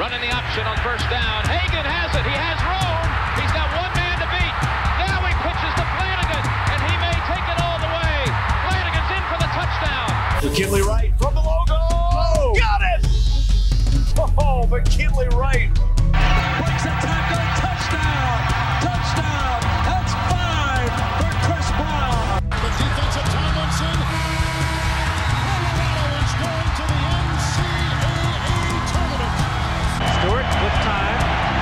Running the option on first down. Hagan has it. He has room. He's got one man to beat. Now he pitches to Flanagan, and he may take it all the way. Flanagan's in for the touchdown. McKinley Wright from the logo. Oh, got it! Oh, McKinley Wright. Breaks a tackle. Touchdown. Touchdown. That's 5 for Chris Brown. The defensive Tomlinson. Colorado is going to the NCAA tournament. Stewart with time.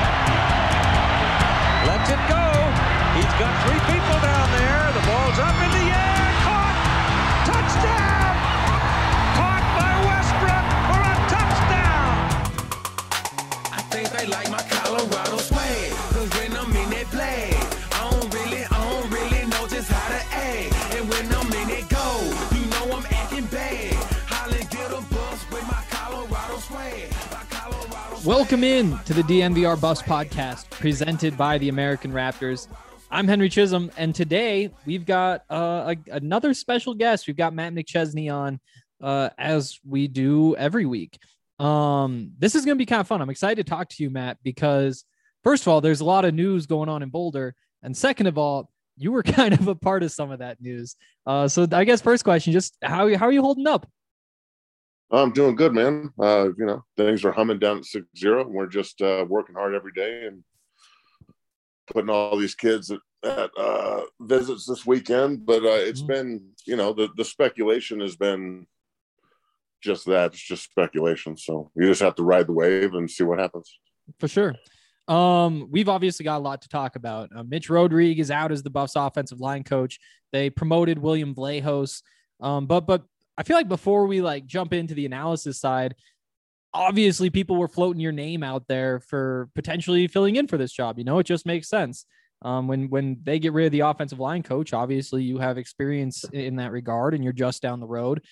Lets it go. He's got 3 people down there. The ball's up in the air. Caught. Touchdown. Caught by Westbrook for a touchdown. I think they like my Colorado swag. Cause when I'm in that play, I don't really know just how to act. And when I'm in it go, you know I'm acting bad. Holly get a bus with my Colorado swag. Welcome in to the DNVR Buffs podcast presented by the American Raptors. I'm Henry Chisholm, and today we've got another special guest. We've got Matt McChesney on, as we do every week. This is going to be kind of fun. I'm excited to talk to you, Matt, because first of all, there's a lot of news going on in Boulder, and second of all, you were kind of a part of some of that news. So I guess first question, just how are you holding up? I'm doing good, man. Things are humming down at 6-0. We're just working hard every day and putting all these kids at visits this weekend. But it's been, the speculation has been just that. It's just speculation. So you just have to ride the wave and see what happens. For sure. We've obviously got a lot to talk about. Mitch Rodriguez is out as the Buffs offensive line coach. They promoted William Vlahos. But I feel like before we jump into the analysis side, obviously people were floating your name out there for potentially filling in for this job. It just makes sense. When they get rid of the offensive line coach, obviously you have experience in that regard and you're just down the road.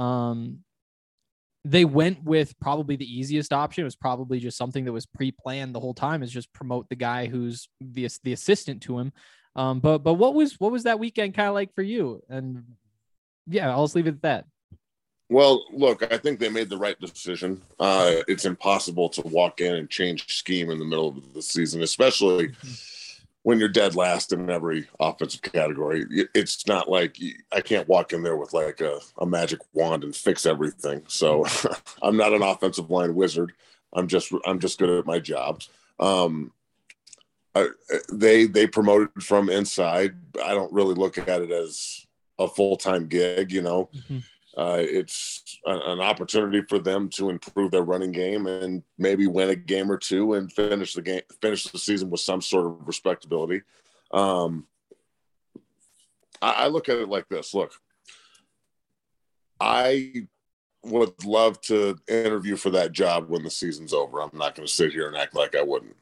They went with probably the easiest option. It was probably just something that was pre-planned the whole time, is just promote the guy who's the assistant to him. But what was that weekend kind of like for you? And yeah, I'll just leave it at that. Well, look, I think they made the right decision. It's impossible to walk in and change scheme in the middle of the season, especially when you're dead last in every offensive category. It's not like I can't walk in there with a magic wand and fix everything. So I'm not an offensive line wizard. I'm just good at my job. They promoted from inside. I don't really look at it as a full-time gig, It's an opportunity for them to improve their running game and maybe win a game or two and finish the season with some sort of respectability. I look at it like this. Look, I would love to interview for that job when the season's over. I'm not going to sit here and act like I wouldn't.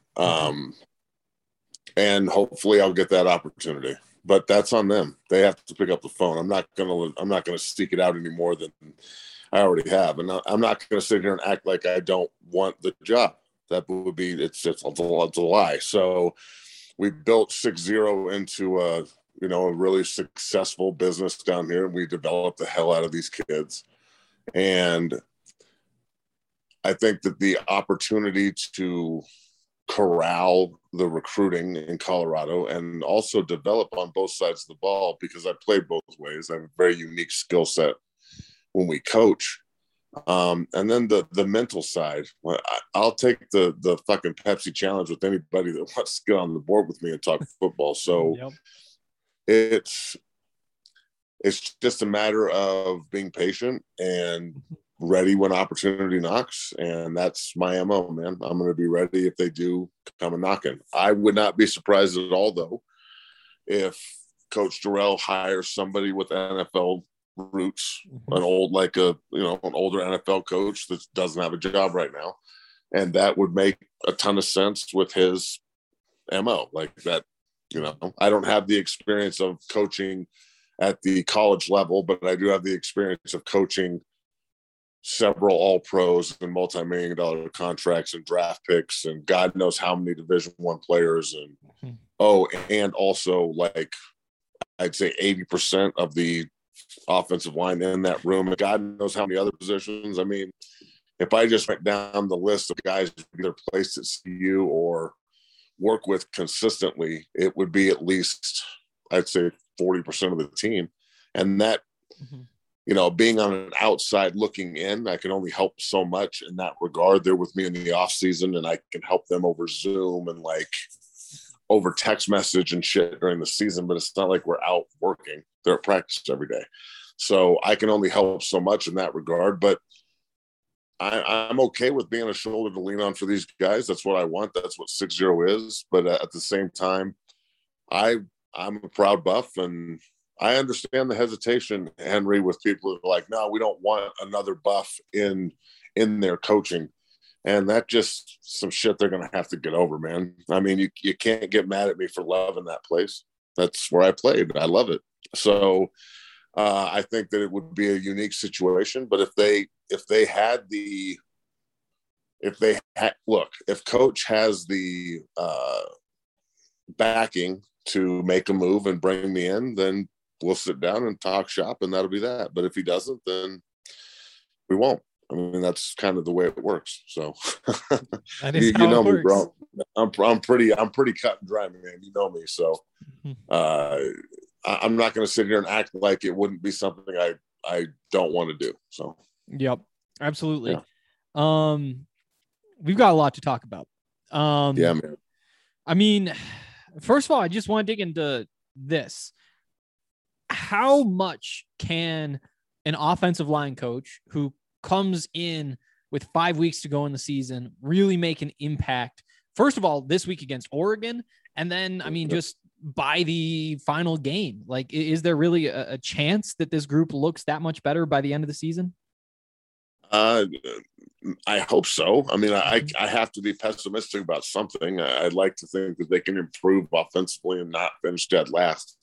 And hopefully I'll get that opportunity. But that's on them. They have to pick up the phone. I'm not gonna seek it out any more than I already have, and I'm not gonna sit here and act like I don't want the job. That would be it's a lie. So we built 6-0 into a really successful business down here, and we developed the hell out of these kids. And I think that the opportunity to corral the recruiting in Colorado and also develop on both sides of the ball, because I played both ways. I have a very unique skill set when we coach. And then the mental side, I'll take the fucking Pepsi challenge with anybody that wants to get on the board with me and talk football. So it's just a matter of being patient and ready when opportunity knocks, and that's my MO, man. I'm going to be ready if they do come a knocking. I would not be surprised at all, though, if Coach Dorrell hires somebody with NFL roots, an older NFL coach that doesn't have a job right now, and that would make a ton of sense with his MO. Like that, I don't have the experience of coaching at the college level, but I do have the experience of coaching several all-pros and multi-million-dollar contracts and draft picks and God knows how many Division I players. And and also I'd say 80% of the offensive line in that room, and God knows how many other positions. I mean, if I just went down the list of guys either placed at CU or work with consistently, it would be at least, I'd say, 40% of the team. And that, being on an outside looking in, I can only help so much in that regard. They're with me in the off season, and I can help them over Zoom and like over text message and shit during the season, but it's not like we're out working. They're at practice every day. So I can only help so much in that regard, but I'm okay with being a shoulder to lean on for these guys. That's what I want. That's what 6-0 is. But at the same time, I'm a proud Buff, and I understand the hesitation, Henry, with people who are like, no, we don't want another Buff in their coaching. And that just some shit they're going to have to get over, man. I mean, you can't get mad at me for loving that place. That's where I played. I love it. So I think that it would be a unique situation. But if Coach has the backing to make a move and bring me in, then we'll sit down and talk shop, and that'll be that. But if he doesn't, then we won't. I mean, that's kind of the way it works. So that is you know how it me, bro. works. I'm pretty cut and dry, man. You know me. So I'm not going to sit here and act like it wouldn't be something I don't want to do. So yep, absolutely. Yeah. We've got a lot to talk about. Yeah, man. I mean, first of all, I just want to dig into this. How much can an offensive line coach who comes in with 5 weeks to go in the season really make an impact? First of all, this week against Oregon, and then, I mean, just by the final game, like, is there really a chance that this group looks that much better by the end of the season? I hope so. I mean, I have to be pessimistic about something. I'd like to think that they can improve offensively and not finish dead last.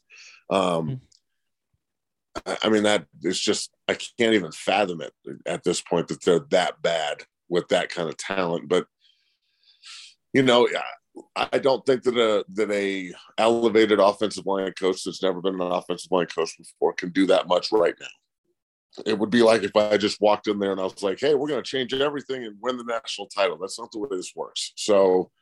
I mean, that is just, I can't even fathom it at this point that they're that bad with that kind of talent. But, I don't think that a elevated offensive line coach that's never been an offensive line coach before can do that much right now. It would be like if I just walked in there and I was like, hey, we're going to change everything and win the national title. That's not the way this works. So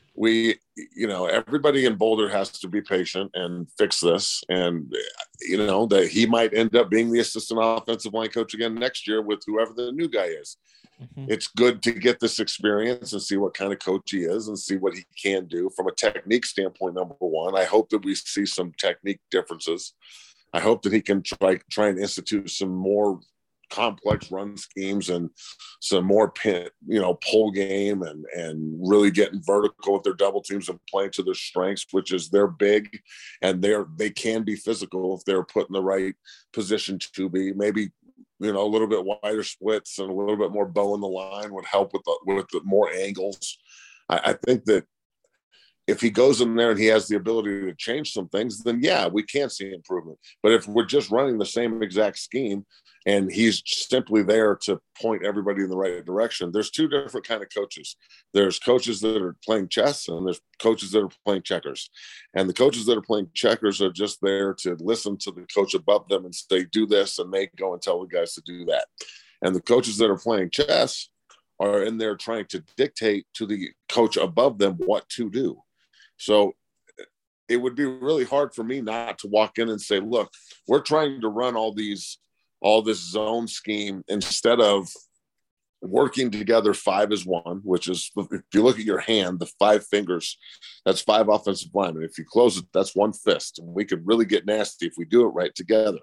everybody in Boulder has to be patient and fix this. And, that he might end up being the assistant offensive line coach again next year with whoever the new guy is. It's good to get this experience and see what kind of coach he is and see what he can do from a technique standpoint. Number one, I hope that we see some technique differences. I hope that he can try and institute some more complex run schemes and some more pull game and really getting vertical with their double teams and playing to their strengths, which is they're big and they can be physical if they're put in the right position to be. Maybe a little bit wider splits and a little bit more bow in the line would help with the more angles. I think that if he goes in there and he has the ability to change some things, then yeah, we can see improvement. But if we're just running the same exact scheme and he's simply there to point everybody in the right direction, there's two different kind of coaches. There's coaches that are playing chess and there's coaches that are playing checkers. And the coaches that are playing checkers are just there to listen to the coach above them and say, do this, and they go and tell the guys to do that. And the coaches that are playing chess are in there trying to dictate to the coach above them what to do. So it would be really hard for me not to walk in and say, look, we're trying to run all this zone scheme instead of working together 5 as 1, which is, if you look at your hand, the 5 fingers, that's 5 offensive linemen. If you close it, that's 1 fist. And we could really get nasty if we do it right together.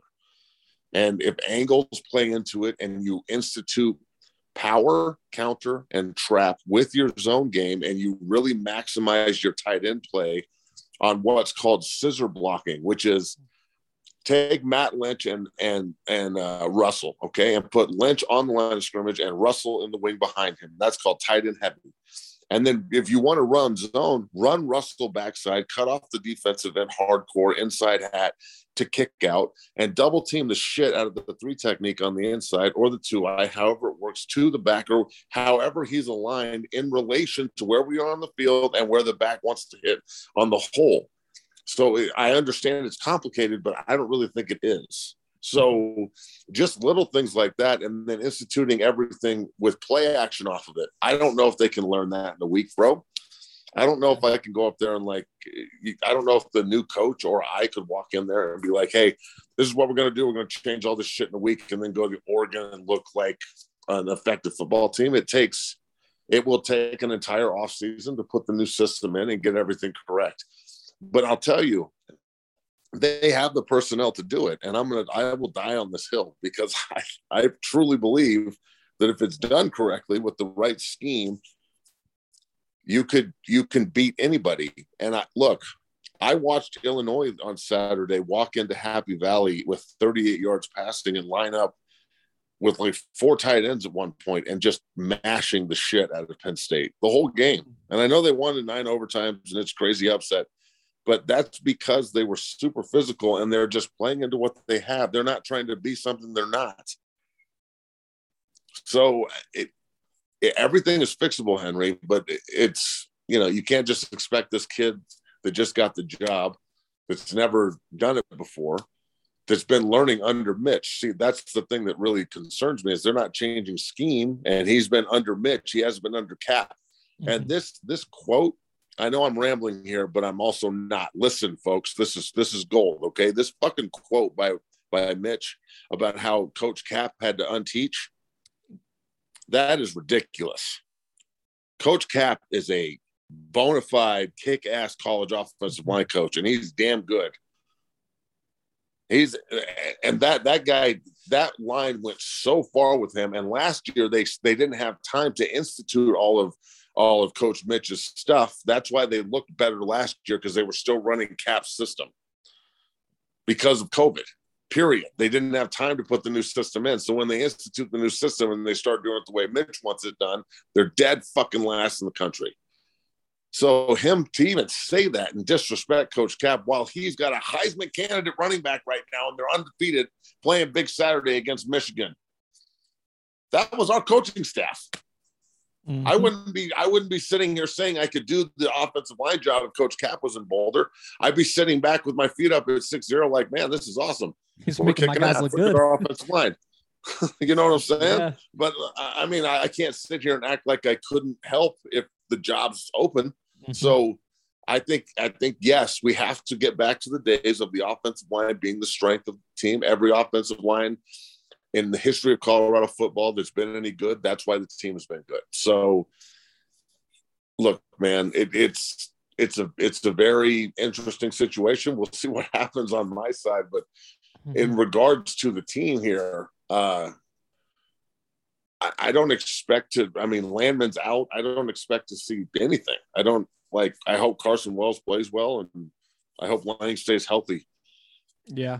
And if angles play into it and you institute power, counter, and trap with your zone game, and you really maximize your tight end play on what's called scissor blocking, which is take Matt Lynch and Russell, okay, and put Lynch on the line of scrimmage and Russell in the wing behind him. That's called tight end heavy. And then if you want to run zone, run Russell backside, cut off the defensive end hardcore inside hat to kick out, and double team the shit out of the 3 technique on the inside or the 2-eye, however it works, to the backer, however he's aligned in relation to where we are on the field and where the back wants to hit on the hole. So I understand it's complicated, but I don't really think it is. So just little things like that, and then instituting everything with play action off of it. I don't know if they can learn that in a week, bro. I don't know if I can go up there and I don't know if the new coach or I could walk in there and be like, hey, this is what we're going to do. We're going to change all this shit in a week and then go to Oregon and look like an effective football team. It will take an entire offseason to put the new system in and get everything correct. But I'll tell you, they have the personnel to do it. And I will die on this hill because I truly believe that if it's done correctly with the right scheme, you can beat anybody. And I watched Illinois on Saturday walk into Happy Valley with 38 yards passing and line up with like 4 tight ends at one point and just mashing the shit out of Penn State the whole game. And I know they won in 9 overtimes and it's crazy upset, but that's because they were super physical and they're just playing into what they have. They're not trying to be something they're not. So everything is fixable, Henry, but it's, you can't just expect this kid that just got the job, that's never done it before, that's been learning under Mitch. See, that's the thing that really concerns me is they're not changing scheme, and he's been under Mitch. He hasn't been under Cap. Mm-hmm. And this quote, I know I'm rambling here, but I'm also not. Listen, folks, this is gold, okay? This fucking quote by Mitch about how Coach Cap had to unteach, that is ridiculous. Coach Cap is a bona fide kick-ass college offensive line coach, and he's damn good. That guy, that line went so far with him. And last year they didn't have time to institute all of Coach Mitch's stuff. That's why they looked better last year, because they were still running Cap's system because of COVID. Period. They didn't have time to put the new system in. So when they institute the new system and they start doing it the way Mitch wants it done, they're dead fucking last in the country. So him to even say that and disrespect Coach Cap while he's got a Heisman candidate running back right now and they're undefeated playing Big Saturday against Michigan. That was our coaching staff. Mm-hmm. I wouldn't be sitting here saying I could do the offensive line job if Coach Cap was in Boulder. I'd be sitting back with my feet up at 6-0 like, man, this is awesome. He's making my guys look good. Our offensive line. You know what I'm saying? Yeah. But I mean, I can't sit here and act like I couldn't help if the job's open. Mm-hmm. So I think, yes, we have to get back to the days of the offensive line being the strength of the team. Every offensive line in the history of Colorado football that's been any good, that's why the team has been good. So look, man, it's a very interesting situation. We'll see what happens on my side, but in regards to the team here, I don't expect to. I mean, Landman's out. I don't expect to see anything. I hope Carson Wells plays well, and I hope Lang stays healthy. Yeah.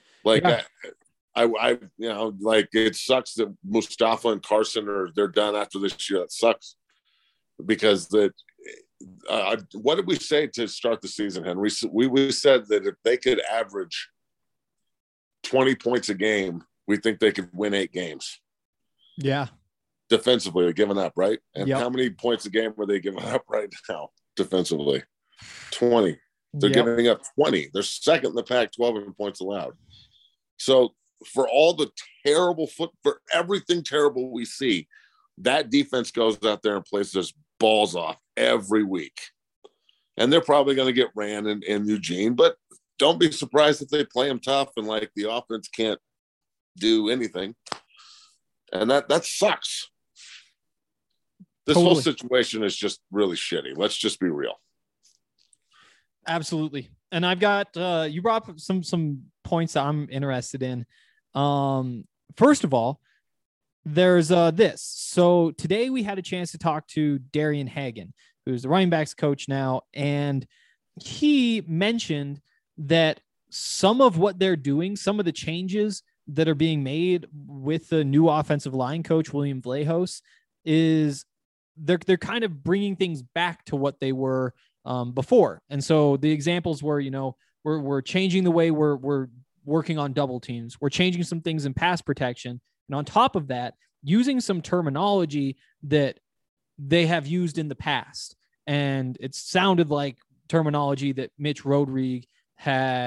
I it sucks that Mustafa and Carson they're done after this year. That sucks because what did we say to start the season, Henry? We said that if they could average 20 points a game, we think they could win 8 games. Yeah. Defensively, they're giving up, right? And Yep. how many points a game are they giving up right now defensively? 20. They're giving up 20. They're second in the Pac-12 in points allowed. So for all the for everything terrible we see, that defense goes out there and plays this balls off every week. And they're probably going to get ran in Eugene, but don't be surprised if they play them tough and the offense can't do anything. And that sucks. This whole situation is just really shitty. Let's just be real. Absolutely. And I've got, you brought up some points that I'm interested in. First of all, there's this. So today we had a chance to talk to Darian Hagan, who's the running backs coach now. And he mentioned that some of what they're doing, some of the changes that are being made with the new offensive line coach, William Vlahos, is they're kind of bringing things back to what they were before. And so the examples were, we're changing the way we're working on double teams. We're changing some things in pass protection. And on top of that, using some terminology that they have used in the past. And it sounded like terminology that Mitch Rodrigue had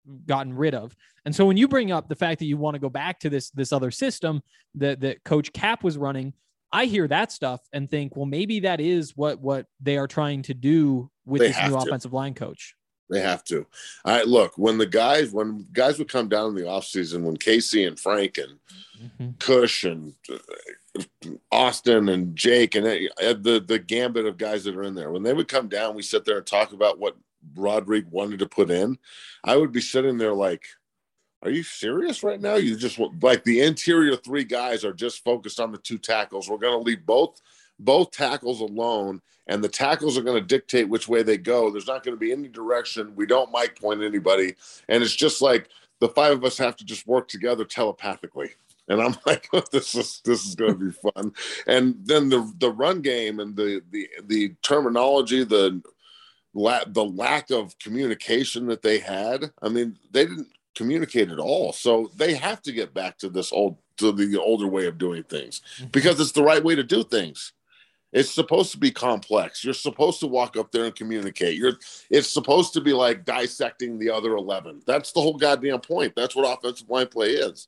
gotten rid of. And so when you bring up the fact that you want to go back to this other system that Coach Cap was running, I hear that stuff and think, well, maybe that is what they are trying to do with this new offensive line coach. They have to. Look, when guys would come down in the offseason, when Casey and Frank and Cush and Austin and Jake and the gambit of guys that are in there, when they would come down, we sit there and talk about what Rodrigue wanted to put in. I would be sitting there like, are you serious right now? You just like the interior three guys are just focused on the two tackles. We're going to leave both tackles alone, and the tackles are going to dictate which way they go. There's not going to be any direction. We don't mic point anybody. And it's just like the five of us have to just work together telepathically. And I'm like, this is going to be fun. And then the run game and the terminology, the lack of communication that they had. I mean, they didn't communicate at all. So they have to get back to the older way of doing things because it's the right way to do things. It's supposed to be complex. You're supposed to walk up there and communicate. It's supposed to be like dissecting the other 11. That's the whole goddamn point. That's what offensive line play is.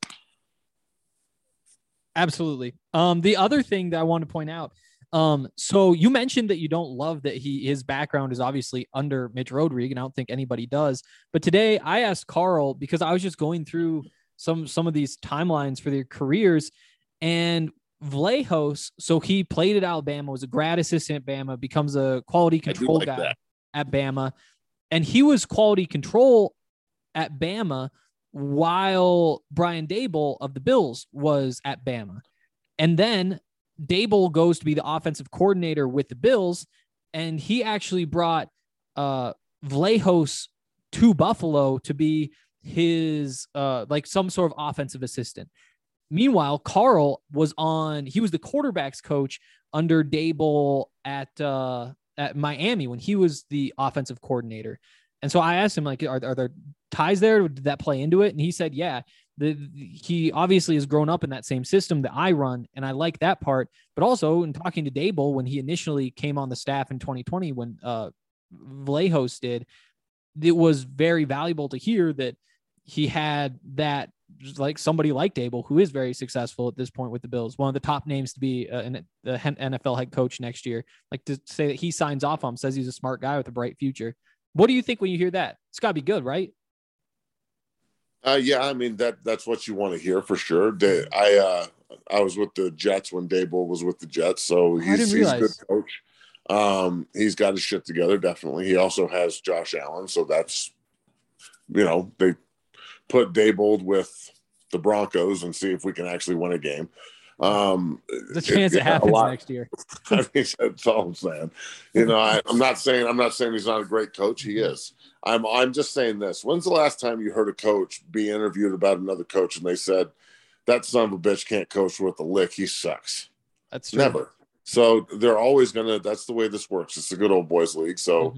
Absolutely. The other thing that I want to point out, so you mentioned that you don't love that his background is obviously under Mitch Rodrigue, and I don't think anybody does. But today I asked Carl because I was just going through some of these timelines for their careers, and Vlahos, so he played at Alabama, was a grad assistant at Bama, becomes a quality control guy at Bama, and he was quality control at Bama while Brian Daboll of the Bills was at Bama. And then Daboll goes to be the offensive coordinator with the Bills, and he actually brought Vlahos to Buffalo to be his like some sort of offensive assistant. Meanwhile, Carl was the quarterback's coach under Daboll at Miami when he was the offensive coordinator. And so I asked him, like, are there ties there? Did that play into it? And he said, yeah, he obviously has grown up in that same system that I run. And I like that part, but also in talking to Daboll, when he initially came on the staff in 2020, when Vlahos did, it was very valuable to hear that he had that, like somebody like Daboll, who is very successful at this point with the Bills, one of the top names to be the NFL head coach next year. Like to say that he signs off on him, says he's a smart guy with a bright future. What do you think when you hear that? It's got to be good, right? Yeah, I mean that's what you want to hear for sure. I was with the Jets when Daboll was with the Jets, so he's a good coach. He's got his shit together, definitely. He also has Josh Allen, so that's, they put Daboll with the Broncos and see if we can actually win a game. The chance it happens next year. I mean, that's all I'm saying. I'm not saying he's not a great coach. He is. I'm just saying this. When's the last time you heard a coach be interviewed about another coach and they said, that son of a bitch can't coach worth a lick. He sucks. That's true. Never. So they're always that's the way this works. It's a good old boys league. So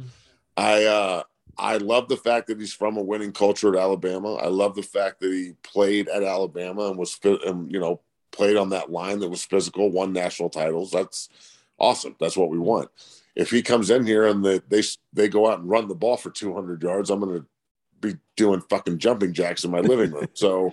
I love the fact that he's from a winning culture at Alabama. I love the fact that he played at Alabama and played on that line that was physical, won national titles. That's awesome. That's what we want. If he comes in here and they go out and run the ball for 200 yards, I'm going to be doing fucking jumping jacks in my living room. So,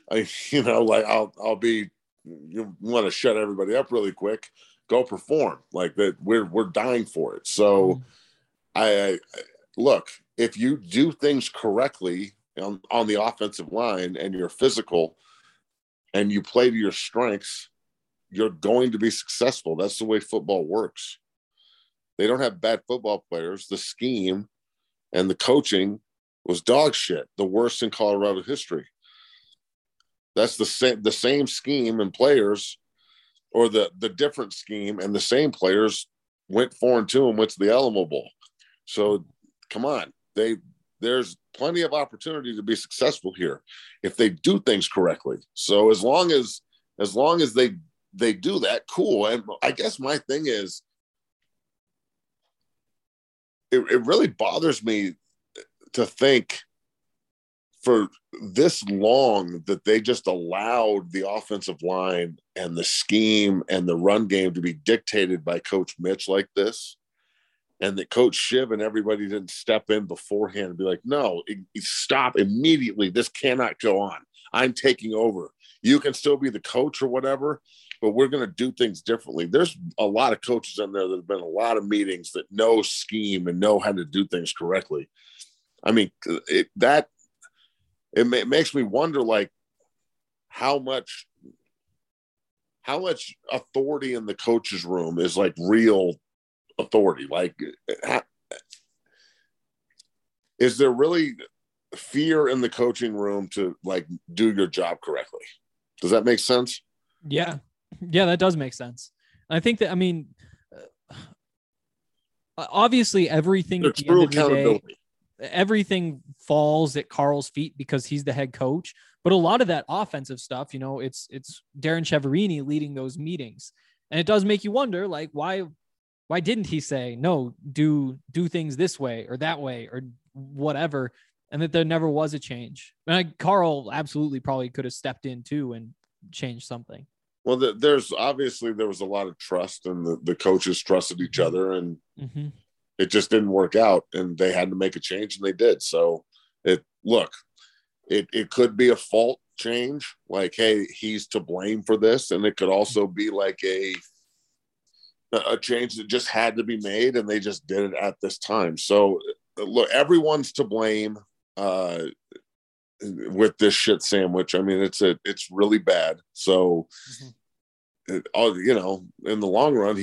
I'll be, you want to shut everybody up really quick, go perform like that. We're dying for it. So I look, if you do things correctly on the offensive line and you're physical and you play to your strengths, you're going to be successful. That's the way football works. They don't have bad football players. The scheme and the coaching was dog shit, the worst in Colorado history. That's the same scheme and players, or the different scheme and the same players went 4-2 and went to the Alamo Bowl. So come on, there's plenty of opportunity to be successful here if they do things correctly. So as long as they do that, cool. And I guess my thing is, it really bothers me to think for this long that they just allowed the offensive line and the scheme and the run game to be dictated by Coach Mitch like this. and that Coach Shiv and everybody didn't step in beforehand and be like, no, stop immediately. This cannot go on. I'm taking over. You can still be the coach or whatever, but we're going to do things differently. There's a lot of coaches in there that have been a lot of meetings that know scheme and know how to do things correctly. I mean, it makes me wonder, like, how much authority in the coach's room is like real authority. Like, is there really fear in the coaching room to like do your job correctly? Does that make sense? Yeah, that does make sense. I think that, I mean, obviously everything at the end of the day, everything falls at Carl's feet because he's the head coach. But a lot of that offensive stuff, you know, it's Darren Chiaverini leading those meetings. And it does make you wonder, like, why didn't he say, no, do things this way or that way or whatever, and that there never was a change? And Carl absolutely probably could have stepped in too and changed something. Well, there was a lot of trust, and the coaches trusted each other, and it just didn't work out, and they had to make a change, and they did. So it could be a fault change, like, hey, he's to blame for this, and it could also be like a change that just had to be made, and they just did it at this time. So look, everyone's to blame with this shit sandwich. I mean, it's really bad. So you know, in the long run,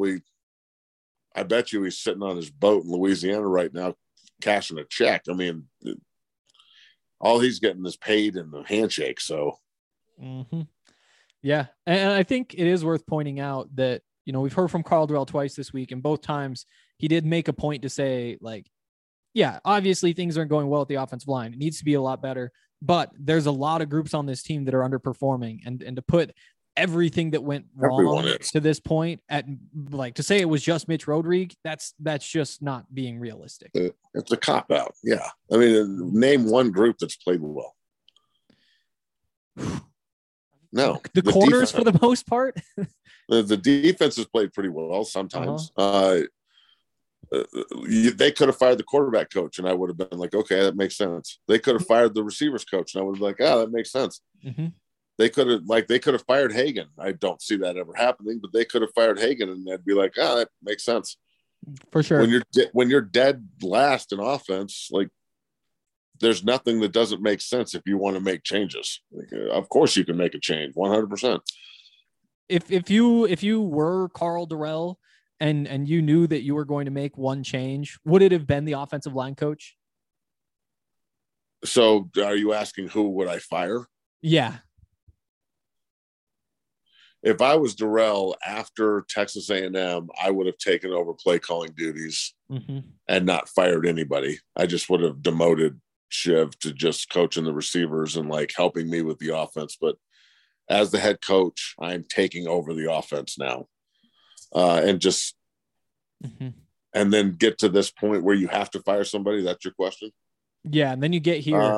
I bet you he's sitting on his boat in Louisiana right now cashing a check. I mean, all he's getting is paid in the handshake. So yeah, and I think it is worth pointing out that, you know, we've heard from Karl Dorrell twice this week, and both times he did make a point to say, like, yeah, obviously things aren't going well at the offensive line. It needs to be a lot better, but there's a lot of groups on this team that are underperforming, and to put everything that went wrong to this point at, like, to say it was just Mitch Rodrigue, that's just not being realistic. It's a cop out. Yeah. I mean, name one group that's played well. No, the corners defense, for the most part. The defense has played pretty well sometimes. They could have fired the quarterback coach, and I would have been like, okay, that makes sense. They could have fired the receivers coach, and I would have been like, that makes sense. They could have fired Hagan. I don't see that ever happening, but they could have fired Hagan, and they'd be like, that makes sense. For sure. When you're dead last in offense, like, there's nothing that doesn't make sense if you want to make changes. Like, of course you can make a change, 100%. If you were Karl Dorrell and you knew that you were going to make one change, would it have been the offensive line coach? So are you asking who would I fire? Yeah. If I was Dorrell after Texas A&M, I would have taken over play calling duties and not fired anybody. I just would have demoted Shiv to just coaching the receivers and like helping me with the offense. But as the head coach, I'm taking over the offense now, and just and then get to this point where you have to fire somebody. That's your question? Yeah, and then you get here.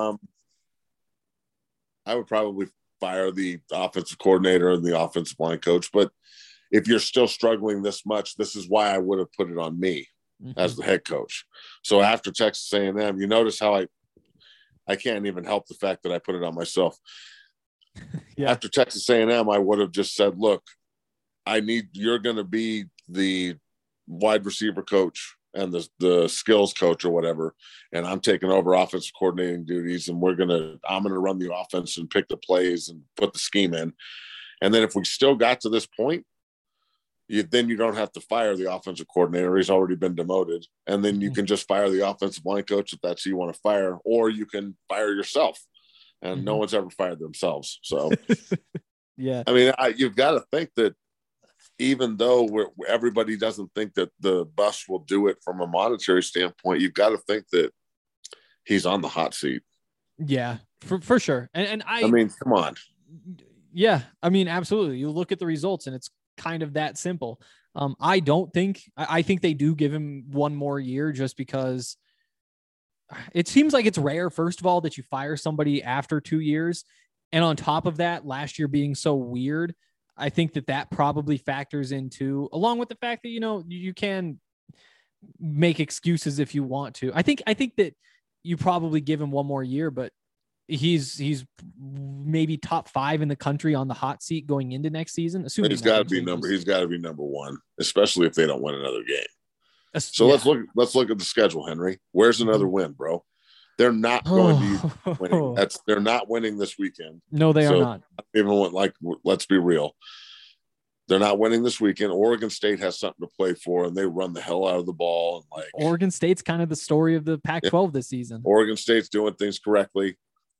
I would probably fire the offensive coordinator and the offensive line coach. But if you're still struggling this much, this is why I would have put it on me as the head coach. So after Texas A&M, you notice how I can't even help the fact that I put it on myself. After Texas A&M, I would have just said, look, you're going to be the wide receiver coach and the skills coach or whatever, and I'm taking over offensive coordinating duties, and I'm going to run the offense and pick the plays and put the scheme in. And then if we still got to this point, then you don't have to fire the offensive coordinator. He's already been demoted. And then you can just fire the offensive line coach if that's who you want to fire, or you can fire yourself. And no one's ever fired themselves. So, yeah. I mean, you've got to think that even though everybody doesn't think that the bus will do it from a monetary standpoint, you've got to think that he's on the hot seat. Yeah, for sure. And I mean, come on. Yeah, I mean, absolutely. You look at the results, and it's kind of that simple. I think they do give him one more year just because it seems like it's rare, first of all, that you fire somebody after 2 years. And on top of that, last year being so weird, I think that probably factors into, along with the fact that, you know, you can make excuses if you want to. I think that you probably give him one more year, but he's maybe top 5 in the country on the hot seat going into next season. Assuming He's got to be number 1, especially if they don't win another game. So let's look at the schedule, Henry. Where's another win, bro? They're not going to be winning. They're not winning this weekend. No, they are not. Even let's be real. They're not winning this weekend. Oregon State has something to play for, and they run the hell out of the ball. And Oregon State's kind of the story of the Pac-12 this season. Oregon State's doing things correctly.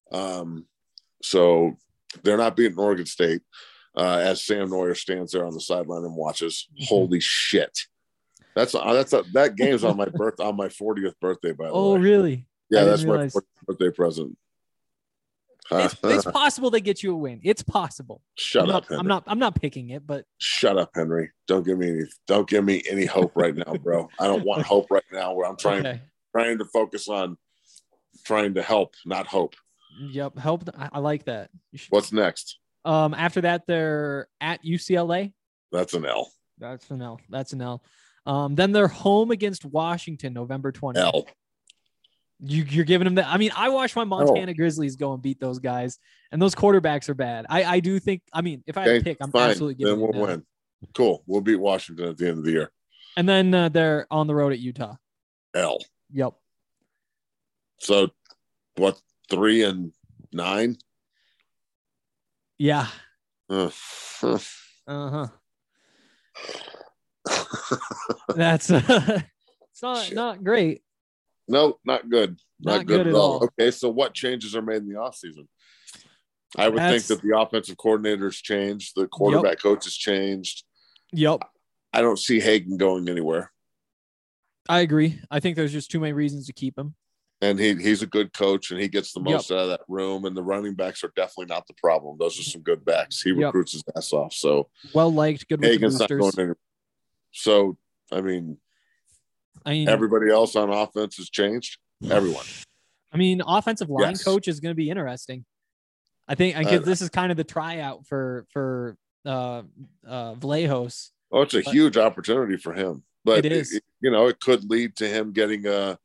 So they're not beating Oregon State. As Sam Neuer stands there on the sideline and watches. Holy shit. That game's on my 40th birthday, by the way. Oh, really? Yeah, that's my 40th birthday present. It's possible they get you a win. It's possible. Shut up, Henry. I'm not picking it, but shut up, Henry. Don't give me any hope right now, bro. I don't want hope right now. Where I'm trying to focus on trying to help, not hope. Yep, help. I like that. What's next? After that, they're at UCLA. That's an L. That's an L. Then they're home against Washington, November 20th. L. You're giving them that. I mean, I watched my Montana Grizzlies go and beat those guys, and those quarterbacks are bad. I do think. I mean, if I had to pick, I'm absolutely giving them. Then we'll win. Cool. We'll beat Washington at the end of the year. And then they're on the road at Utah. L. Yep. So, what? 3-9? Yeah. That's it's not great. No, not good. Not good at all. Okay, so what changes are made in the offseason? I would think that the offensive coordinator's changed, the quarterback coach has changed. Yep. I don't see Hagen going anywhere. I agree. I think there's just too many reasons to keep him. And he's a good coach, and he gets the most out of that room, and the running backs are definitely not the problem. Those are some good backs. He recruits his ass off. So well-liked, good with Hagen's the not going anywhere. So, I mean, everybody else on offense has changed. Everyone. I mean, offensive line coach is going to be interesting. I think this is kind of the tryout for Vlahos. Oh, it's a huge opportunity for him. But it is. It could lead to him getting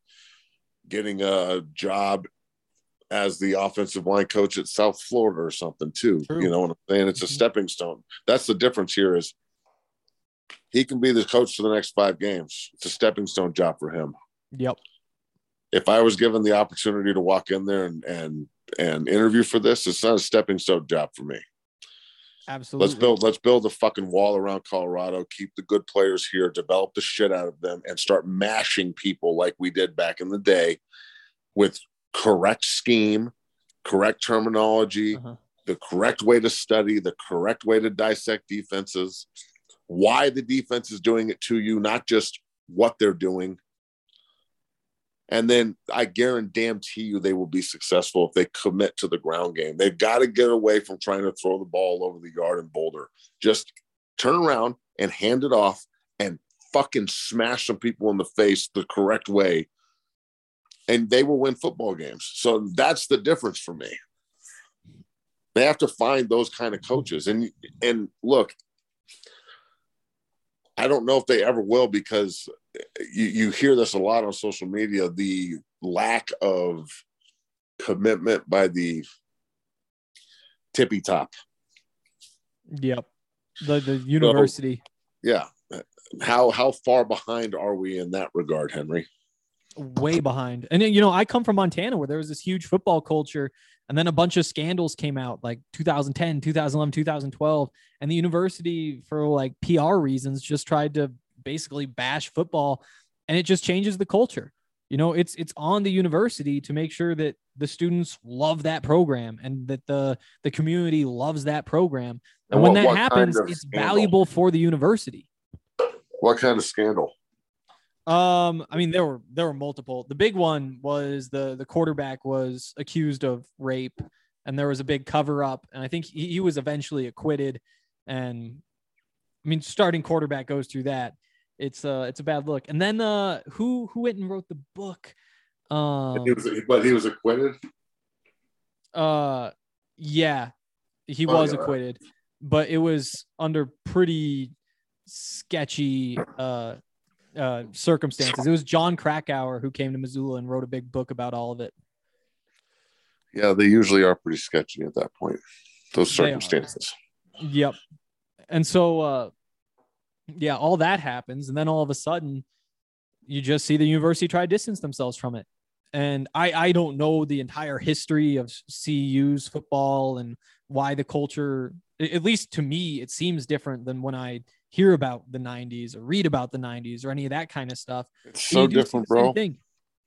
a job as the offensive line coach at South Florida or something too. True. You know what I'm saying? It's a stepping stone. That's the difference here is he can be the coach for the next 5 games. It's a stepping stone job for him. Yep. If I was given the opportunity to walk in there and interview for this, it's not a stepping stone job for me. Absolutely. Let's build a fucking wall around Colorado, keep the good players here, develop the shit out of them, and start mashing people like we did back in the day with correct scheme, correct terminology, the correct way to study, the correct way to dissect defenses, why the defense is doing it to you, not just what they're doing. And then I guarantee you they will be successful if they commit to the ground game. They've got to get away from trying to throw the ball over the yard in Boulder. Just turn around and hand it off and fucking smash some people in the face the correct way, and they will win football games. So that's the difference for me. They have to find those kind of coaches. And look, I don't know if they ever will, because you hear this a lot on social media, the lack of commitment by the tippy top. Yep. The university. So, yeah. How far behind are we in that regard, Henry? Way behind. And I come from Montana, where there was this huge football culture, and then a bunch of scandals came out like 2010, 2011, 2012, and the university, for like PR reasons, just tried to basically bash football, and it just changes the culture. It's on the university to make sure that the students love that program and that the community loves that program. And when that happens, it's valuable for the university. What kind of scandal? I mean, there were multiple. The big one was the quarterback was accused of rape, and there was a big cover up, and I think he was eventually acquitted. And I mean, starting quarterback goes through that. It's a bad look. And then who went and wrote the book? But he was acquitted. Yeah, he was acquitted, but it was under pretty sketchy circumstances. It was John Krakauer who came to Missoula and wrote a big book about all of it. Yeah, they usually are pretty sketchy at that point. Those circumstances. Yep. And so, yeah, all that happens. And then all of a sudden, you just see the university try to distance themselves from it. And I don't know the entire history of CU's football and why the culture, at least to me, it seems different than when I hear about the 90s or read about the 90s or any of that kind of stuff. It's so different, bro. Thing.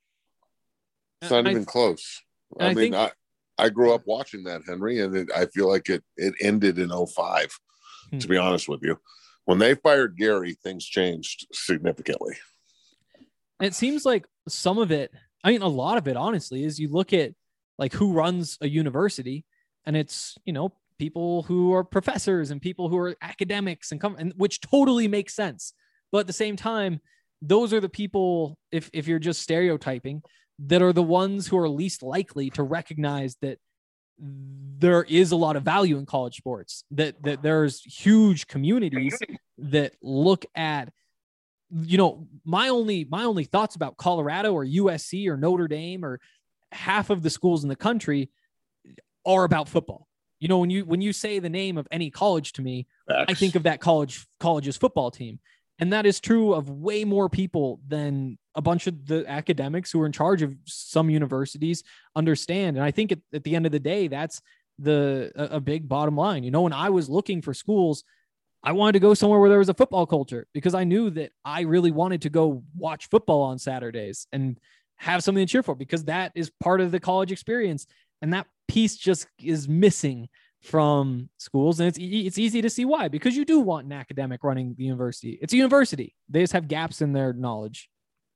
It's not even close. I mean, I grew up watching that, Henry, and I feel like it ended in 05, to be honest with you. When they fired Gary, things changed significantly. And it seems like some of it, I mean, a lot of it, honestly, is you look at like who runs a university, and it's, you know, people who are professors and people who are academics and which totally makes sense. But at the same time, those are the people, if you're just stereotyping, that are the ones who are least likely to recognize that there is a lot of value in college sports, that there's huge communities that look at, you know, my only thoughts about Colorado or USC or Notre Dame or half of the schools in the country are about football. You know, when you say the name of any college to me, I think of that college's football team. And that is true of way more people than a bunch of the academics who are in charge of some universities understand. And I think at the end of the day, that's a big bottom line. You know, when I was looking for schools, I wanted to go somewhere where there was a football culture because I knew that I really wanted to go watch football on Saturdays and have something to cheer for, because that is part of the college experience. And that piece just is missing from schools. And it's easy to see why, because you do want an academic running the university. It's a university. They just have gaps in their knowledge.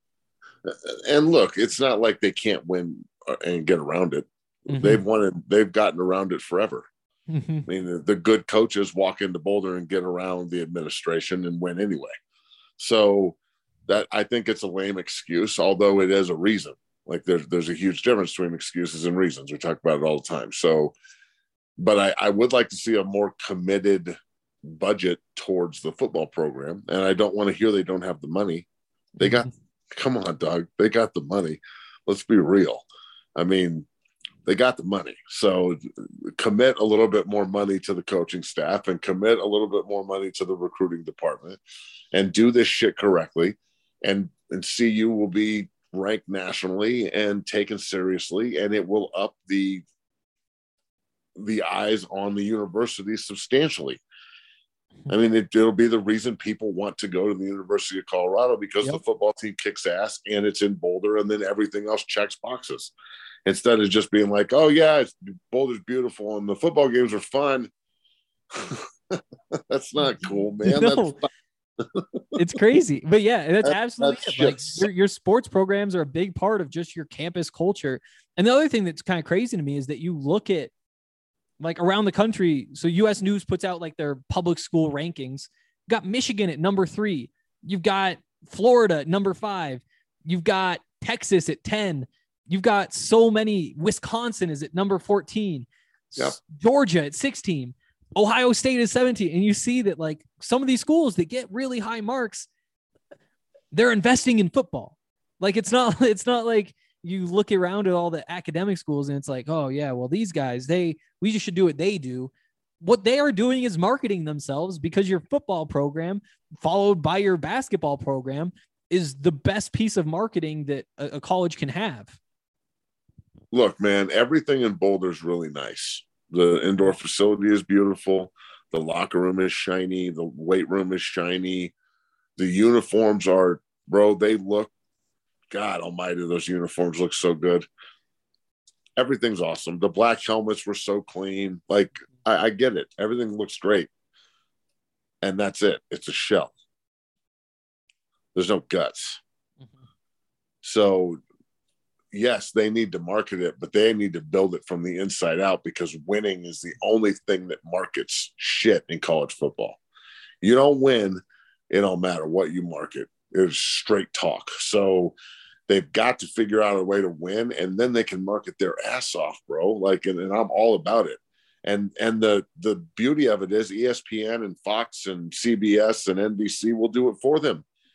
And look, it's not like they can't win and get around it. Mm-hmm. They've gotten around it forever. Mm-hmm. I mean, the good coaches walk into Boulder and get around the administration and win anyway. So that, I think it's a lame excuse, although it is a reason. Like there's a huge difference between excuses and reasons. We talk about it all the time. So, but I would like to see a more committed budget towards the football program. And I don't want to hear they don't have the money. They got, come on, dog. They got the money. Let's be real. I mean, they got the money. So commit a little bit more money to the coaching staff and commit a little bit more money to the recruiting department and do this shit correctly. And CU will be ranked nationally and taken seriously, and it will up the eyes on the university substantially. I mean, it'll be the reason people want to go to the University of Colorado, because the football team kicks ass and it's in Boulder, and then everything else checks boxes. Instead of just being like, oh yeah, Boulder's beautiful and the football games are fun. That's not cool, man. No. It's crazy. But yeah, that's absolutely it. Like your sports programs are a big part of just your campus culture. And the other thing that's kind of crazy to me is that you look at like around the country. So US News puts out like their public school rankings. You've got Michigan at number 3. You've got Florida at number 5. You've got Texas at 10. You've got so many. Wisconsin is at number 14. Yep. Georgia at 16. Ohio State is 17. And you see that like some of these schools that get really high marks, they're investing in football. Like it's not like you look around at all the academic schools and it's like, oh yeah, well these guys, we just should do what they do. What they are doing is marketing themselves, because your football program followed by your basketball program is the best piece of marketing that a college can have. Look, man, everything in Boulder is really nice. The indoor facility is beautiful. The locker room is shiny. The weight room is shiny. The uniforms are, bro, they look, God almighty, those uniforms look so good. Everything's awesome. The black helmets were so clean. Like, I get it. Everything looks great. And that's it. It's a shell. There's no guts. Mm-hmm. So, yes, they need to market it, but they need to build it from the inside out, because winning is the only thing that markets shit in college football. You don't win, it don't matter what you market. It's straight talk. So they've got to figure out a way to win, and then they can market their ass off, bro. Like, and I'm all about it. And the beauty of it is ESPN and Fox and CBS and NBC will do it for them.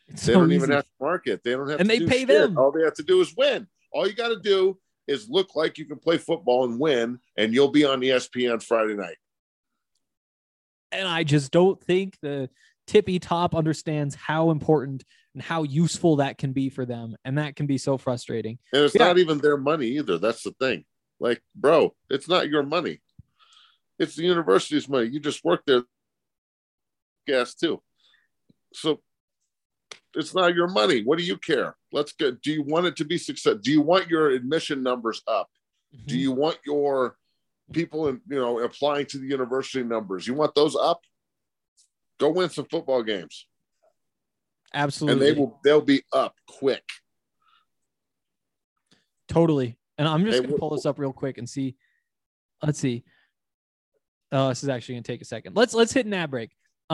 It's They so don't even easy. have to market. They don't have And to they do pay shit. them. All they have to do is win. All you got to do is look like you can play football and win, and you'll be on ESPN Friday night. And I just don't think the tippy top understands how important and how useful that can be for them. And that can be so frustrating. And it's Yeah. not even their money either. That's the thing. Like, bro, it's not your money. It's the university's money. You just work there. Gas too. So it's not your money. What do you care? Let's get. Do you want it to be success? Do you want your admission numbers up? Do you want your people applying to the university numbers? You want those up? Go win some football games. Absolutely. And they'll be up quick. Totally. And I'm just going to pull this up real quick and see. Let's see. This is actually going to take a second. Let's hit an ad break.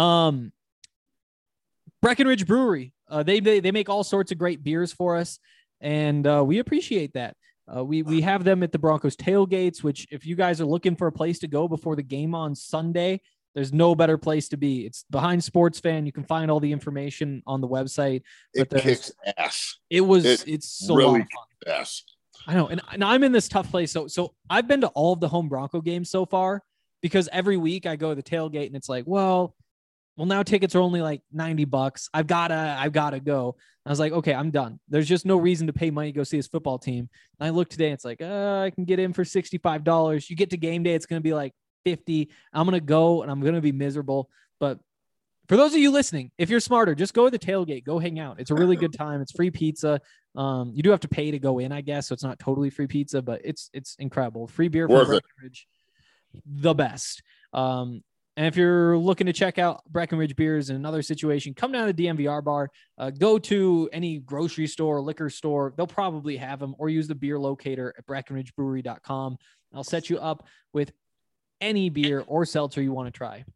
Breckenridge Brewery. They make all sorts of great beers for us, and we appreciate that. We have them at the Broncos tailgates, which if you guys are looking for a place to go before the game on Sunday, there's no better place to be. It's behind Sports Fan. You can find all the information on the website. It kicks ass. It's so really a lot of fun. Ass. I know, and I'm in this tough place. So I've been to all of the home Bronco games so far because every week I go to the tailgate and it's like, well, now tickets are only like $90. I've gotta go. I was like, okay, I'm done. There's just no reason to pay money to go see his football team. And I look today, it's like, I can get in for $65. You get to game day, it's going to be like $50. I'm going to go and I'm going to be miserable. But for those of you listening, if you're smarter, just go to the tailgate, go hang out. It's a really good time. It's free pizza. You do have to pay to go in, I guess. So it's not totally free pizza, but it's incredible. Free beer from Breckenridge, the best. And if you're looking to check out Breckenridge beers in another situation, come down to the DMVR bar, go to any grocery store, liquor store. They'll probably have them, or use the beer locator at BreckenridgeBrewery.com. I'll set you up with any beer or seltzer you want to try.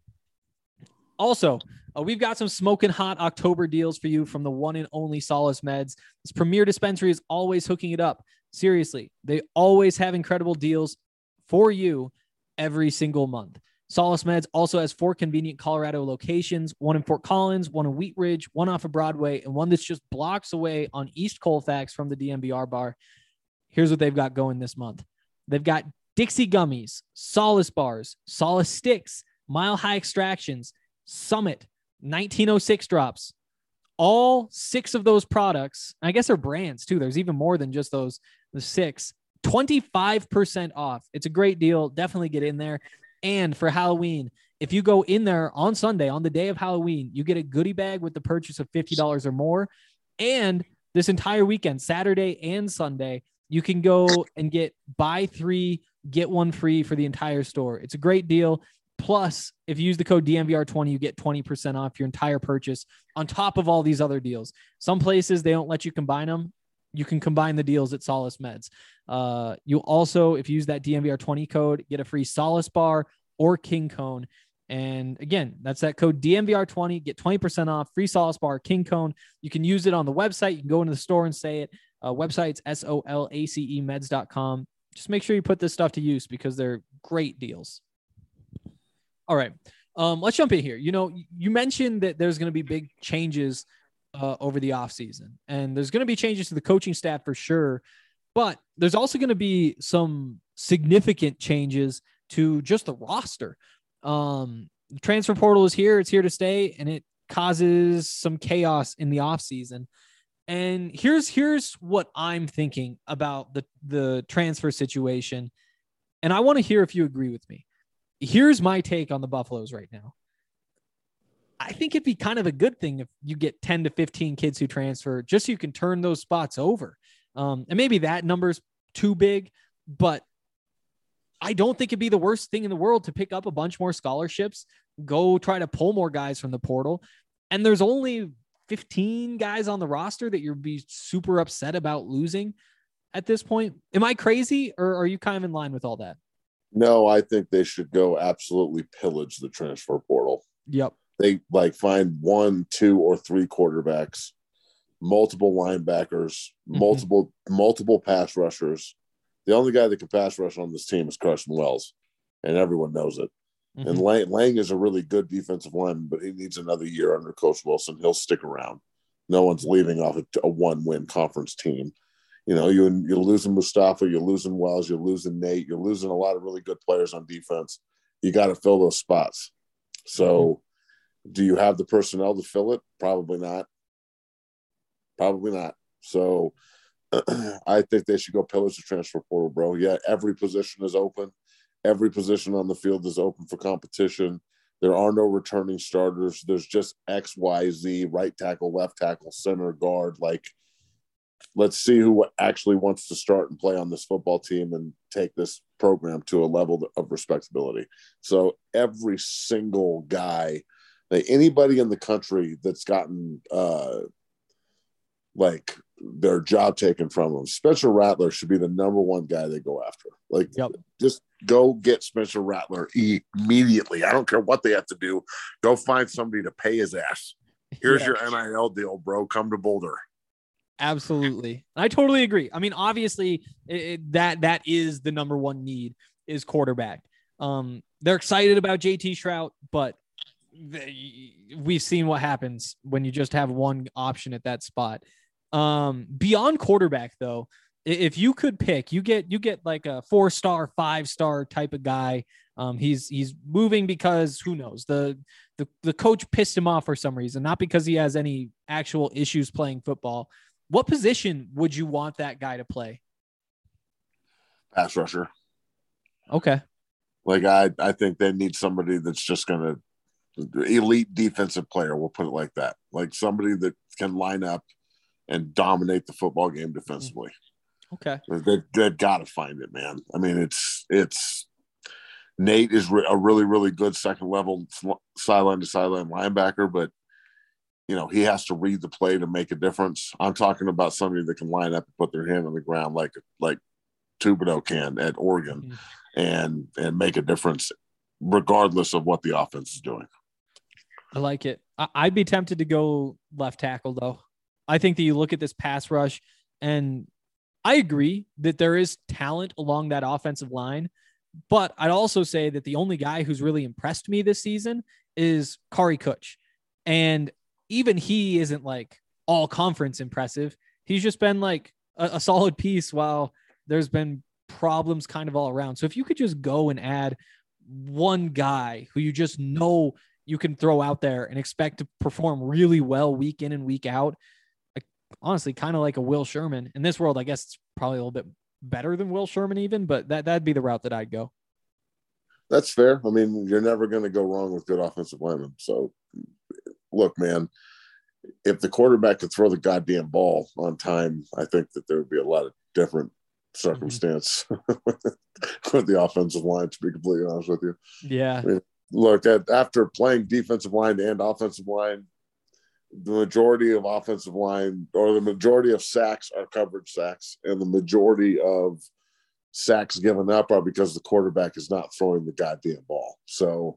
Also, we've got some smoking hot October deals for you from the one and only Solace Meds. This premier dispensary is always hooking it up. Seriously, they always have incredible deals for you every single month. Solace Meds also has 4 convenient Colorado locations, one in Fort Collins, one in Wheat Ridge, one off of Broadway, and one that's just blocks away on East Colfax from the DMVR bar. Here's what they've got going this month. They've got Dixie Gummies, Solace Bars, Solace Sticks, Mile High Extractions, Summit, 1906 drops. All 6 of those products, I guess they're brands too. There's even more than just the 6, 25% off. It's a great deal. Definitely get in there. And for Halloween, if you go in there on Sunday, on the day of Halloween, you get a goodie bag with the purchase of $50 or more. And this entire weekend, Saturday and Sunday, you can go and get buy 3, get 1 free for the entire store. It's a great deal. Plus, if you use the code DMVR20, you get 20% off your entire purchase on top of all these other deals. Some places, they don't let you combine them. You can combine the deals at Solace Meds. You also, if you use that DMVR20 code, get a free Solace bar or King Cone. And again, that's that code DMVR20, get 20% off, free Solace bar, King Cone. You can use it on the website. You can go into the store and say it. Website's SOLACEmeds.com. Just make sure you put this stuff to use because they're great deals. All right. Let's jump in here. You mentioned that there's going to be big changes over the offseason, and there's going to be changes to the coaching staff for sure, but there's also going to be some significant changes to just the roster. The transfer portal is here. It's here to stay, and it causes some chaos in the offseason. And here's what I'm thinking about the transfer situation. And I want to hear if you agree with me. Here's my take on the Buffaloes right now. I think it'd be kind of a good thing if you get 10 to 15 kids who transfer, just so you can turn those spots over. And maybe that number's too big, but I don't think it'd be the worst thing in the world to pick up a bunch more scholarships, go try to pull more guys from the portal. And there's only 15 guys on the roster that you'd be super upset about losing at this point. Am I crazy, or are you kind of in line with all that? No, I think they should go absolutely pillage the transfer portal. Yep. They find 1, 2, or 3 quarterbacks, multiple linebackers, multiple pass rushers. The only guy that can pass rush on this team is Carson Wells, and everyone knows it. And Lang is a really good defensive lineman, but he needs another year under Coach Wilson. He'll stick around. No one's leaving off a one-win conference team. You know, you're losing Mustafa, you're losing Wells, you're losing Nate, you're losing a lot of really good players on defense. You got to fill those spots. So do you have the personnel to fill it? Probably not. Probably not. So I think they should go pillars to transfer portal, bro. Yeah, every position is open. Every position on the field is open for competition. There are no returning starters. There's just X, Y, Z, right tackle, left tackle, center, guard. Like, let's see who actually wants to start and play on this football team and take this program to a level of respectability. So every single guy, like anybody in the country that's gotten like their job taken from them, Spencer Rattler should be the number one guy they go after. Like, just go get Spencer Rattler immediately. I don't care what they have to do. Go find somebody to pay his ass. Here's your NIL deal, bro. Come to Boulder. Absolutely. I totally agree. I mean, obviously that is the number one need is quarterback. They're excited about JT Shrout, but we've seen what happens when you just have one option at that spot. Beyond quarterback though, if you could pick, you get like a 4-star, 5-star type of guy. He's moving because who knows, the coach pissed him off for some reason, not because he has any actual issues playing football. What position would you want that guy to play? Pass rusher. Okay. Like I think they need somebody that's just going to elite defensive player. We'll put it like that. Like somebody that can line up and dominate the football game defensively. Okay. They've got to find it, man. I mean, it's Nate is a really, really good second level sideline to sideline linebacker, but you know, he has to read the play to make a difference. I'm talking about somebody that can line up and put their hand on the ground like Thibodeau can at Oregon and make a difference regardless of what the offense is doing. I like it. I'd be tempted to go left tackle though. I think that you look at this pass rush, and I agree that there is talent along that offensive line, but I'd also say that the only guy who's really impressed me this season is Kari Kutch. And even he isn't like all conference impressive. He's just been like a solid piece while there's been problems kind of all around. So if you could just go and add one guy who you just know you can throw out there and expect to perform really well week in and week out, like, honestly, kind of like a Will Sherman. In this world, I guess it's probably a little bit better than Will Sherman even, but that'd be the route that I'd go. That's fair. I mean, you're never going to go wrong with good offensive linemen. So look, man, if the quarterback could throw the goddamn ball on time, I think that there would be a lot of different circumstance with the offensive line, to be completely honest with you. Yeah. I mean, look, after playing defensive line and offensive line, the majority of offensive line or the majority of sacks are coverage sacks, and the majority of sacks given up are because the quarterback is not throwing the goddamn ball. So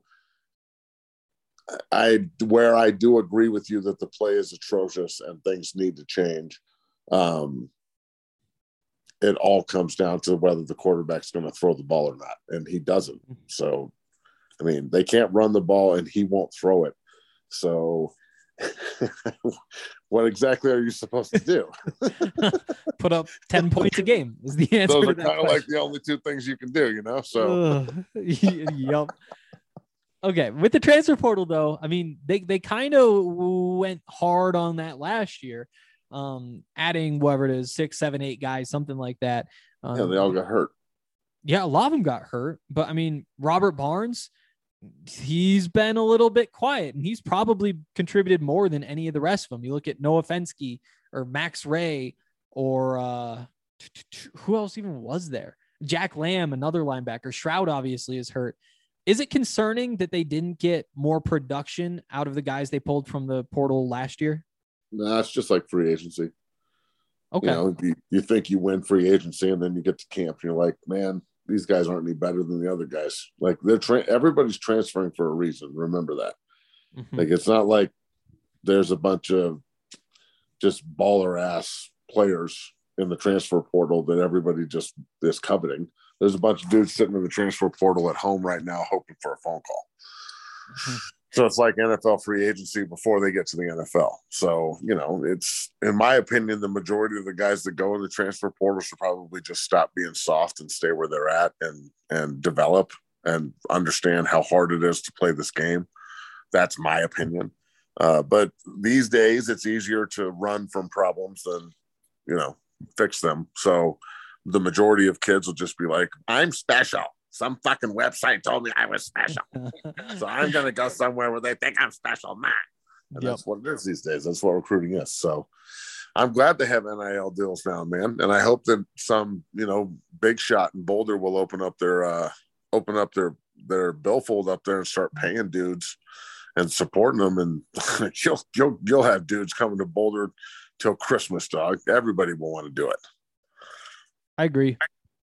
where I do agree with you that the play is atrocious and things need to change. It all comes down to whether the quarterback's going to throw the ball or not, and he doesn't. So, I mean, they can't run the ball and he won't throw it. So what exactly are you supposed to do? Put up 10 points a game is the answer. Those are kind of like the only two things you can do, you know? So, yep. Okay. With the transfer portal though, I mean, they kind of went hard on that last year. Adding whatever it is, 6, 7, 8 guys, something like that. Yeah, they all got hurt. Yeah, a lot of them got hurt. But I mean, Robert Barnes, he's been a little bit quiet, and he's probably contributed more than any of the rest of them. You look at Noah Fensky or Max Ray or who else even was there? Jack Lamb, another linebacker. Shroud obviously is hurt. Is it concerning that they didn't get more production out of the guys they pulled from the portal last year? No, it's just like free agency. Okay. You know, you think you win free agency, and then you get to camp, and you're like, man, these guys aren't any better than the other guys. Like everybody's transferring for a reason. Remember that. Mm-hmm. Like, it's not like there's a bunch of just baller ass players in the transfer portal that everybody just is coveting. There's a bunch of dudes sitting in the transfer portal at home right now, hoping for a phone call. Mm-hmm. So it's like NFL free agency before they get to the NFL. So, it's, in my opinion, the majority of the guys that go in the transfer portal should probably just stop being soft and stay where they're at and develop and understand how hard it is to play this game. That's my opinion. But these days it's easier to run from problems than, fix them. So the majority of kids will just be like, I'm special. Some fucking website told me I was special. So I'm going to go somewhere where they think I'm special. Man. And that's what it is these days. That's what recruiting is. So I'm glad they have NIL deals now, man. And I hope that some, big shot in Boulder will open up their billfold up there and start paying dudes and supporting them. And you'll have dudes coming to Boulder till Christmas, dog. Everybody will want to do it. I agree.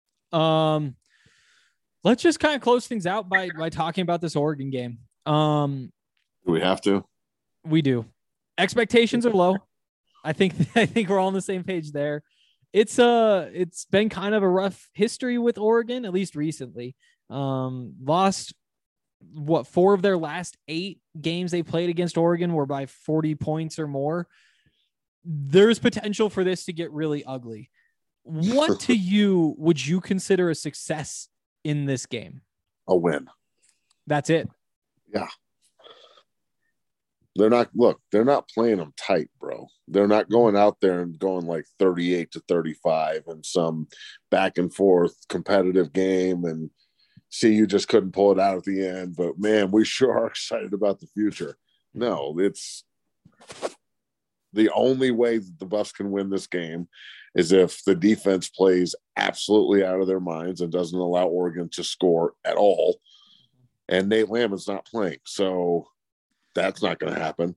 Let's just kind of close things out by talking about this Oregon game. Do we have to? We do. Expectations are low. I think we're all on the same page there. It's been kind of a rough history with Oregon, at least recently. Lost 4 of their last 8 games they played against Oregon were by 40 points or more. There's potential for this to get really ugly. What to you would you consider a success in this game? A win. That's it. Yeah. They're not playing them tight, bro. They're not going out there and going like 38-35 and some back and forth competitive game and see, you just couldn't pull it out at the end. But man, we sure are excited about the future. No, it's the only way that the Buffs can win this game is if the defense plays absolutely out of their minds and doesn't allow Oregon to score at all. And Nate Lamon's not playing. So that's not going to happen.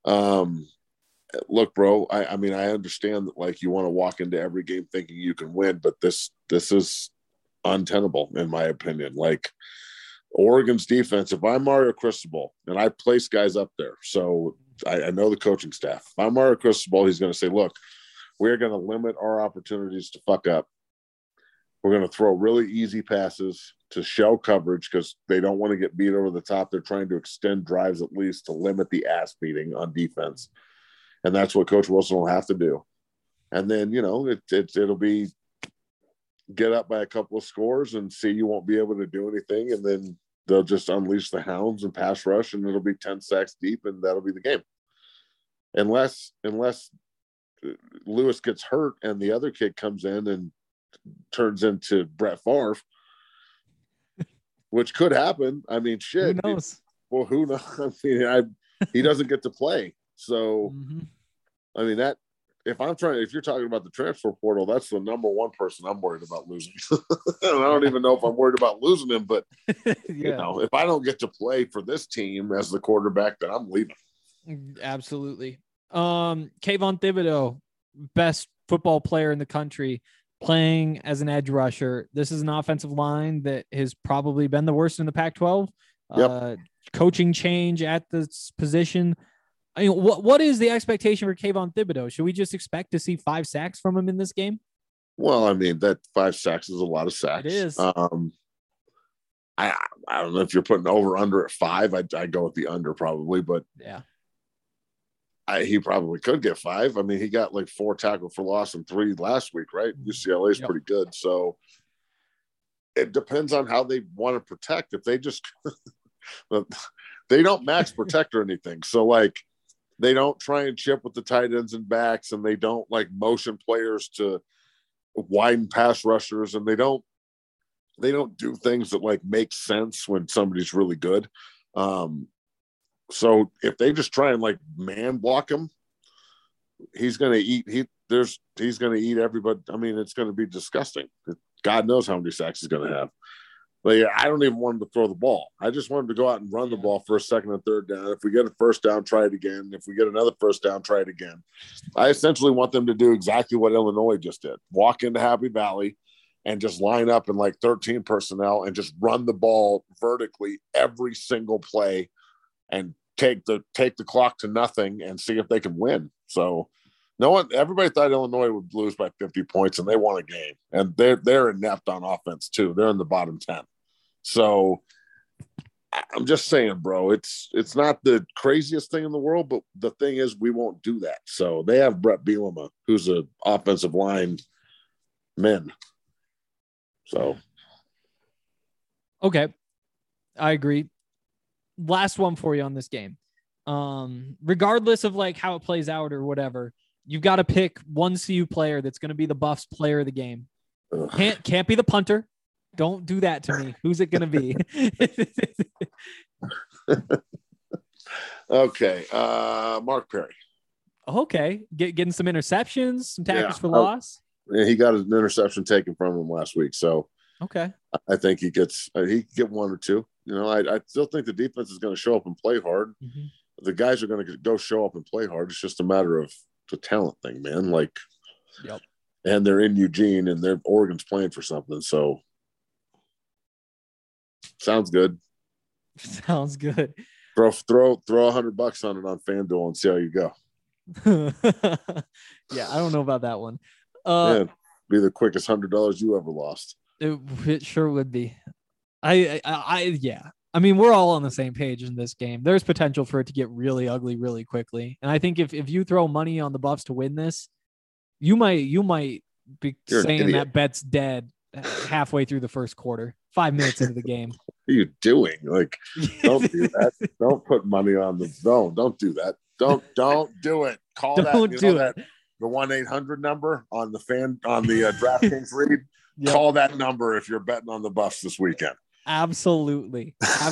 Look, bro, I mean, I understand that like you want to walk into every game thinking you can win, but this is untenable in my opinion. Like Oregon's defense, if I'm Mario Cristobal and I place guys up there, so I know the coaching staff. If I'm Mario Cristobal, he's going to say, look, we're going to limit our opportunities to fuck up. We're going to throw really easy passes to shell coverage because they don't want to get beat over the top. They're trying to extend drives at least to limit the ass beating on defense. And that's what Coach Wilson will have to do. And then, it'll be get up by a couple of scores and see you won't be able to do anything. And then they'll just unleash the hounds and pass rush and it'll be 10 sacks deep and that'll be the game. Unless Lewis gets hurt and the other kid comes in and turns into Brett Favre, which could happen. I mean, shit. Who knows? Who knows? I mean, he doesn't get to play. So, I mean, if you're talking about the transfer portal, that's the number one person I'm worried about losing. And I don't even know if I'm worried about losing him, but if I don't get to play for this team as the quarterback, then I'm leaving. Absolutely. Kayvon Thibodeau, best football player in the country, playing as an edge rusher. This is an offensive line that has probably been the worst in the Pac-12. Yep. Coaching change at this position. I mean, what is the expectation for Kayvon Thibodeau? Should we just expect to see 5 sacks from him in this game? Well, I mean, that 5 sacks is a lot of sacks. It is. I don't know if you're putting over under at 5. I'd go with the under probably, but yeah. He probably could get 5. I mean, he got like 4 tackle for loss and 3 last week, right? UCLA is pretty good. So it depends on how they want to protect. If they just they don't max protect or anything. So like they don't try and chip with the tight ends and backs, and they don't like motion players to widen pass rushers, and they don't do things that like make sense when somebody's really good. So if they just try and like man block him, he's going to eat. He's going to eat everybody. I mean, it's going to be disgusting. God knows how many sacks he's going to have. But yeah, I don't even want him to throw the ball. I just want him to go out and run the ball for a second and third down. If we get a first down, try it again. If we get another first down, try it again. I essentially want them to do exactly what Illinois just did. Walk into Happy Valley and just line up in like 13 personnel and just run the ball vertically every single play and take the clock to nothing and see if they can win. So everybody thought Illinois would lose by 50 points, and they won a game. And they're inept on offense too. They're in the bottom 10. So I'm just saying, bro, it's not the craziest thing in the world, but the thing is we won't do that. So they have Brett Bielema, who's an offensive line man. So okay, I agree. Last one for you on this game. Regardless of like how it plays out or whatever, you've got to pick one CU player that's going to be the Buffs player of the game. Can't be the punter. Don't do that to me. Who's it going to be? Okay. Mark Perry. Okay. Getting some interceptions, some tackles for loss. Yeah, he got an interception taken from him last week. So okay. I think he can get one or two. You know, I still think the defense is going to show up and play hard. Mm-hmm. The guys are going to go show up and play hard. It's just a matter of the talent thing, man. Like, yep. And they're in Eugene and Oregon's playing for something. So sounds good. Sounds good. Throw $100 on it on FanDuel and see how you go. Yeah, I don't know about that one. Yeah, be the quickest $100 you ever lost. It sure would be. Yeah. I mean, we're all on the same page in this game. There's potential for it to get really ugly really quickly. And I think if you throw money on the Buffs to win this, you might be saying that bet's dead halfway through the first quarter, 5 minutes into the game. What are you doing? Like, don't do that. Don't put money on the zone. Don't do that. Don't do it. Call don't that. Do it. The 1-800 number on the DraftKings read. Yep. Call that number if you're betting on the Buffs this weekend. Absolutely.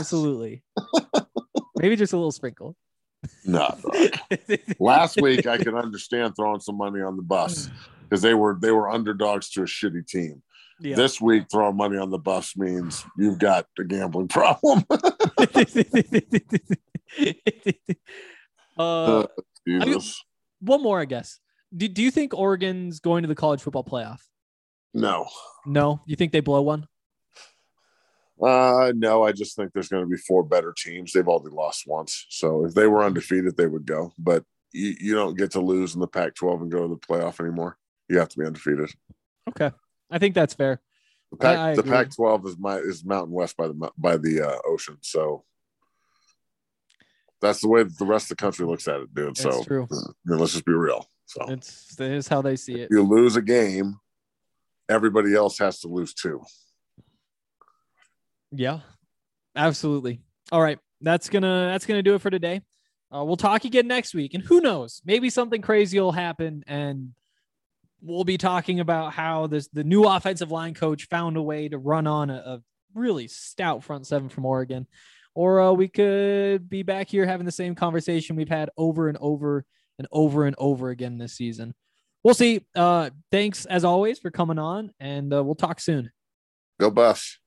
Maybe just a little sprinkle. No. Last week I could understand throwing some money on the Buffs because they were underdogs to a shitty team. Yeah. This week throwing money on the Buffs means you've got a gambling problem. Jesus. One more, I guess. Do you think Oregon's going to the college football playoff? No. You think they blow one? No, I just think there's going to be 4 better teams. They've already lost once. So if they were undefeated, they would go. But you don't get to lose in the Pac-12 and go to the playoff anymore. You have to be undefeated. Okay. I think that's fair. The Pac-12 is Mountain West by the ocean. So that's the way that the rest of the country looks at it, dude. That's true. Let's just be real. So that is how they see it. If you lose a game, everybody else has to lose too. Yeah, absolutely. All right. That's gonna do it for today. We'll talk again next week, and who knows, maybe something crazy will happen and we'll be talking about how the new offensive line coach found a way to run on a really stout front seven from Oregon, or we could be back here having the same conversation we've had over and over and over and over again this season. We'll see. Thanks as always for coming on, and we'll talk soon. Go Buffs.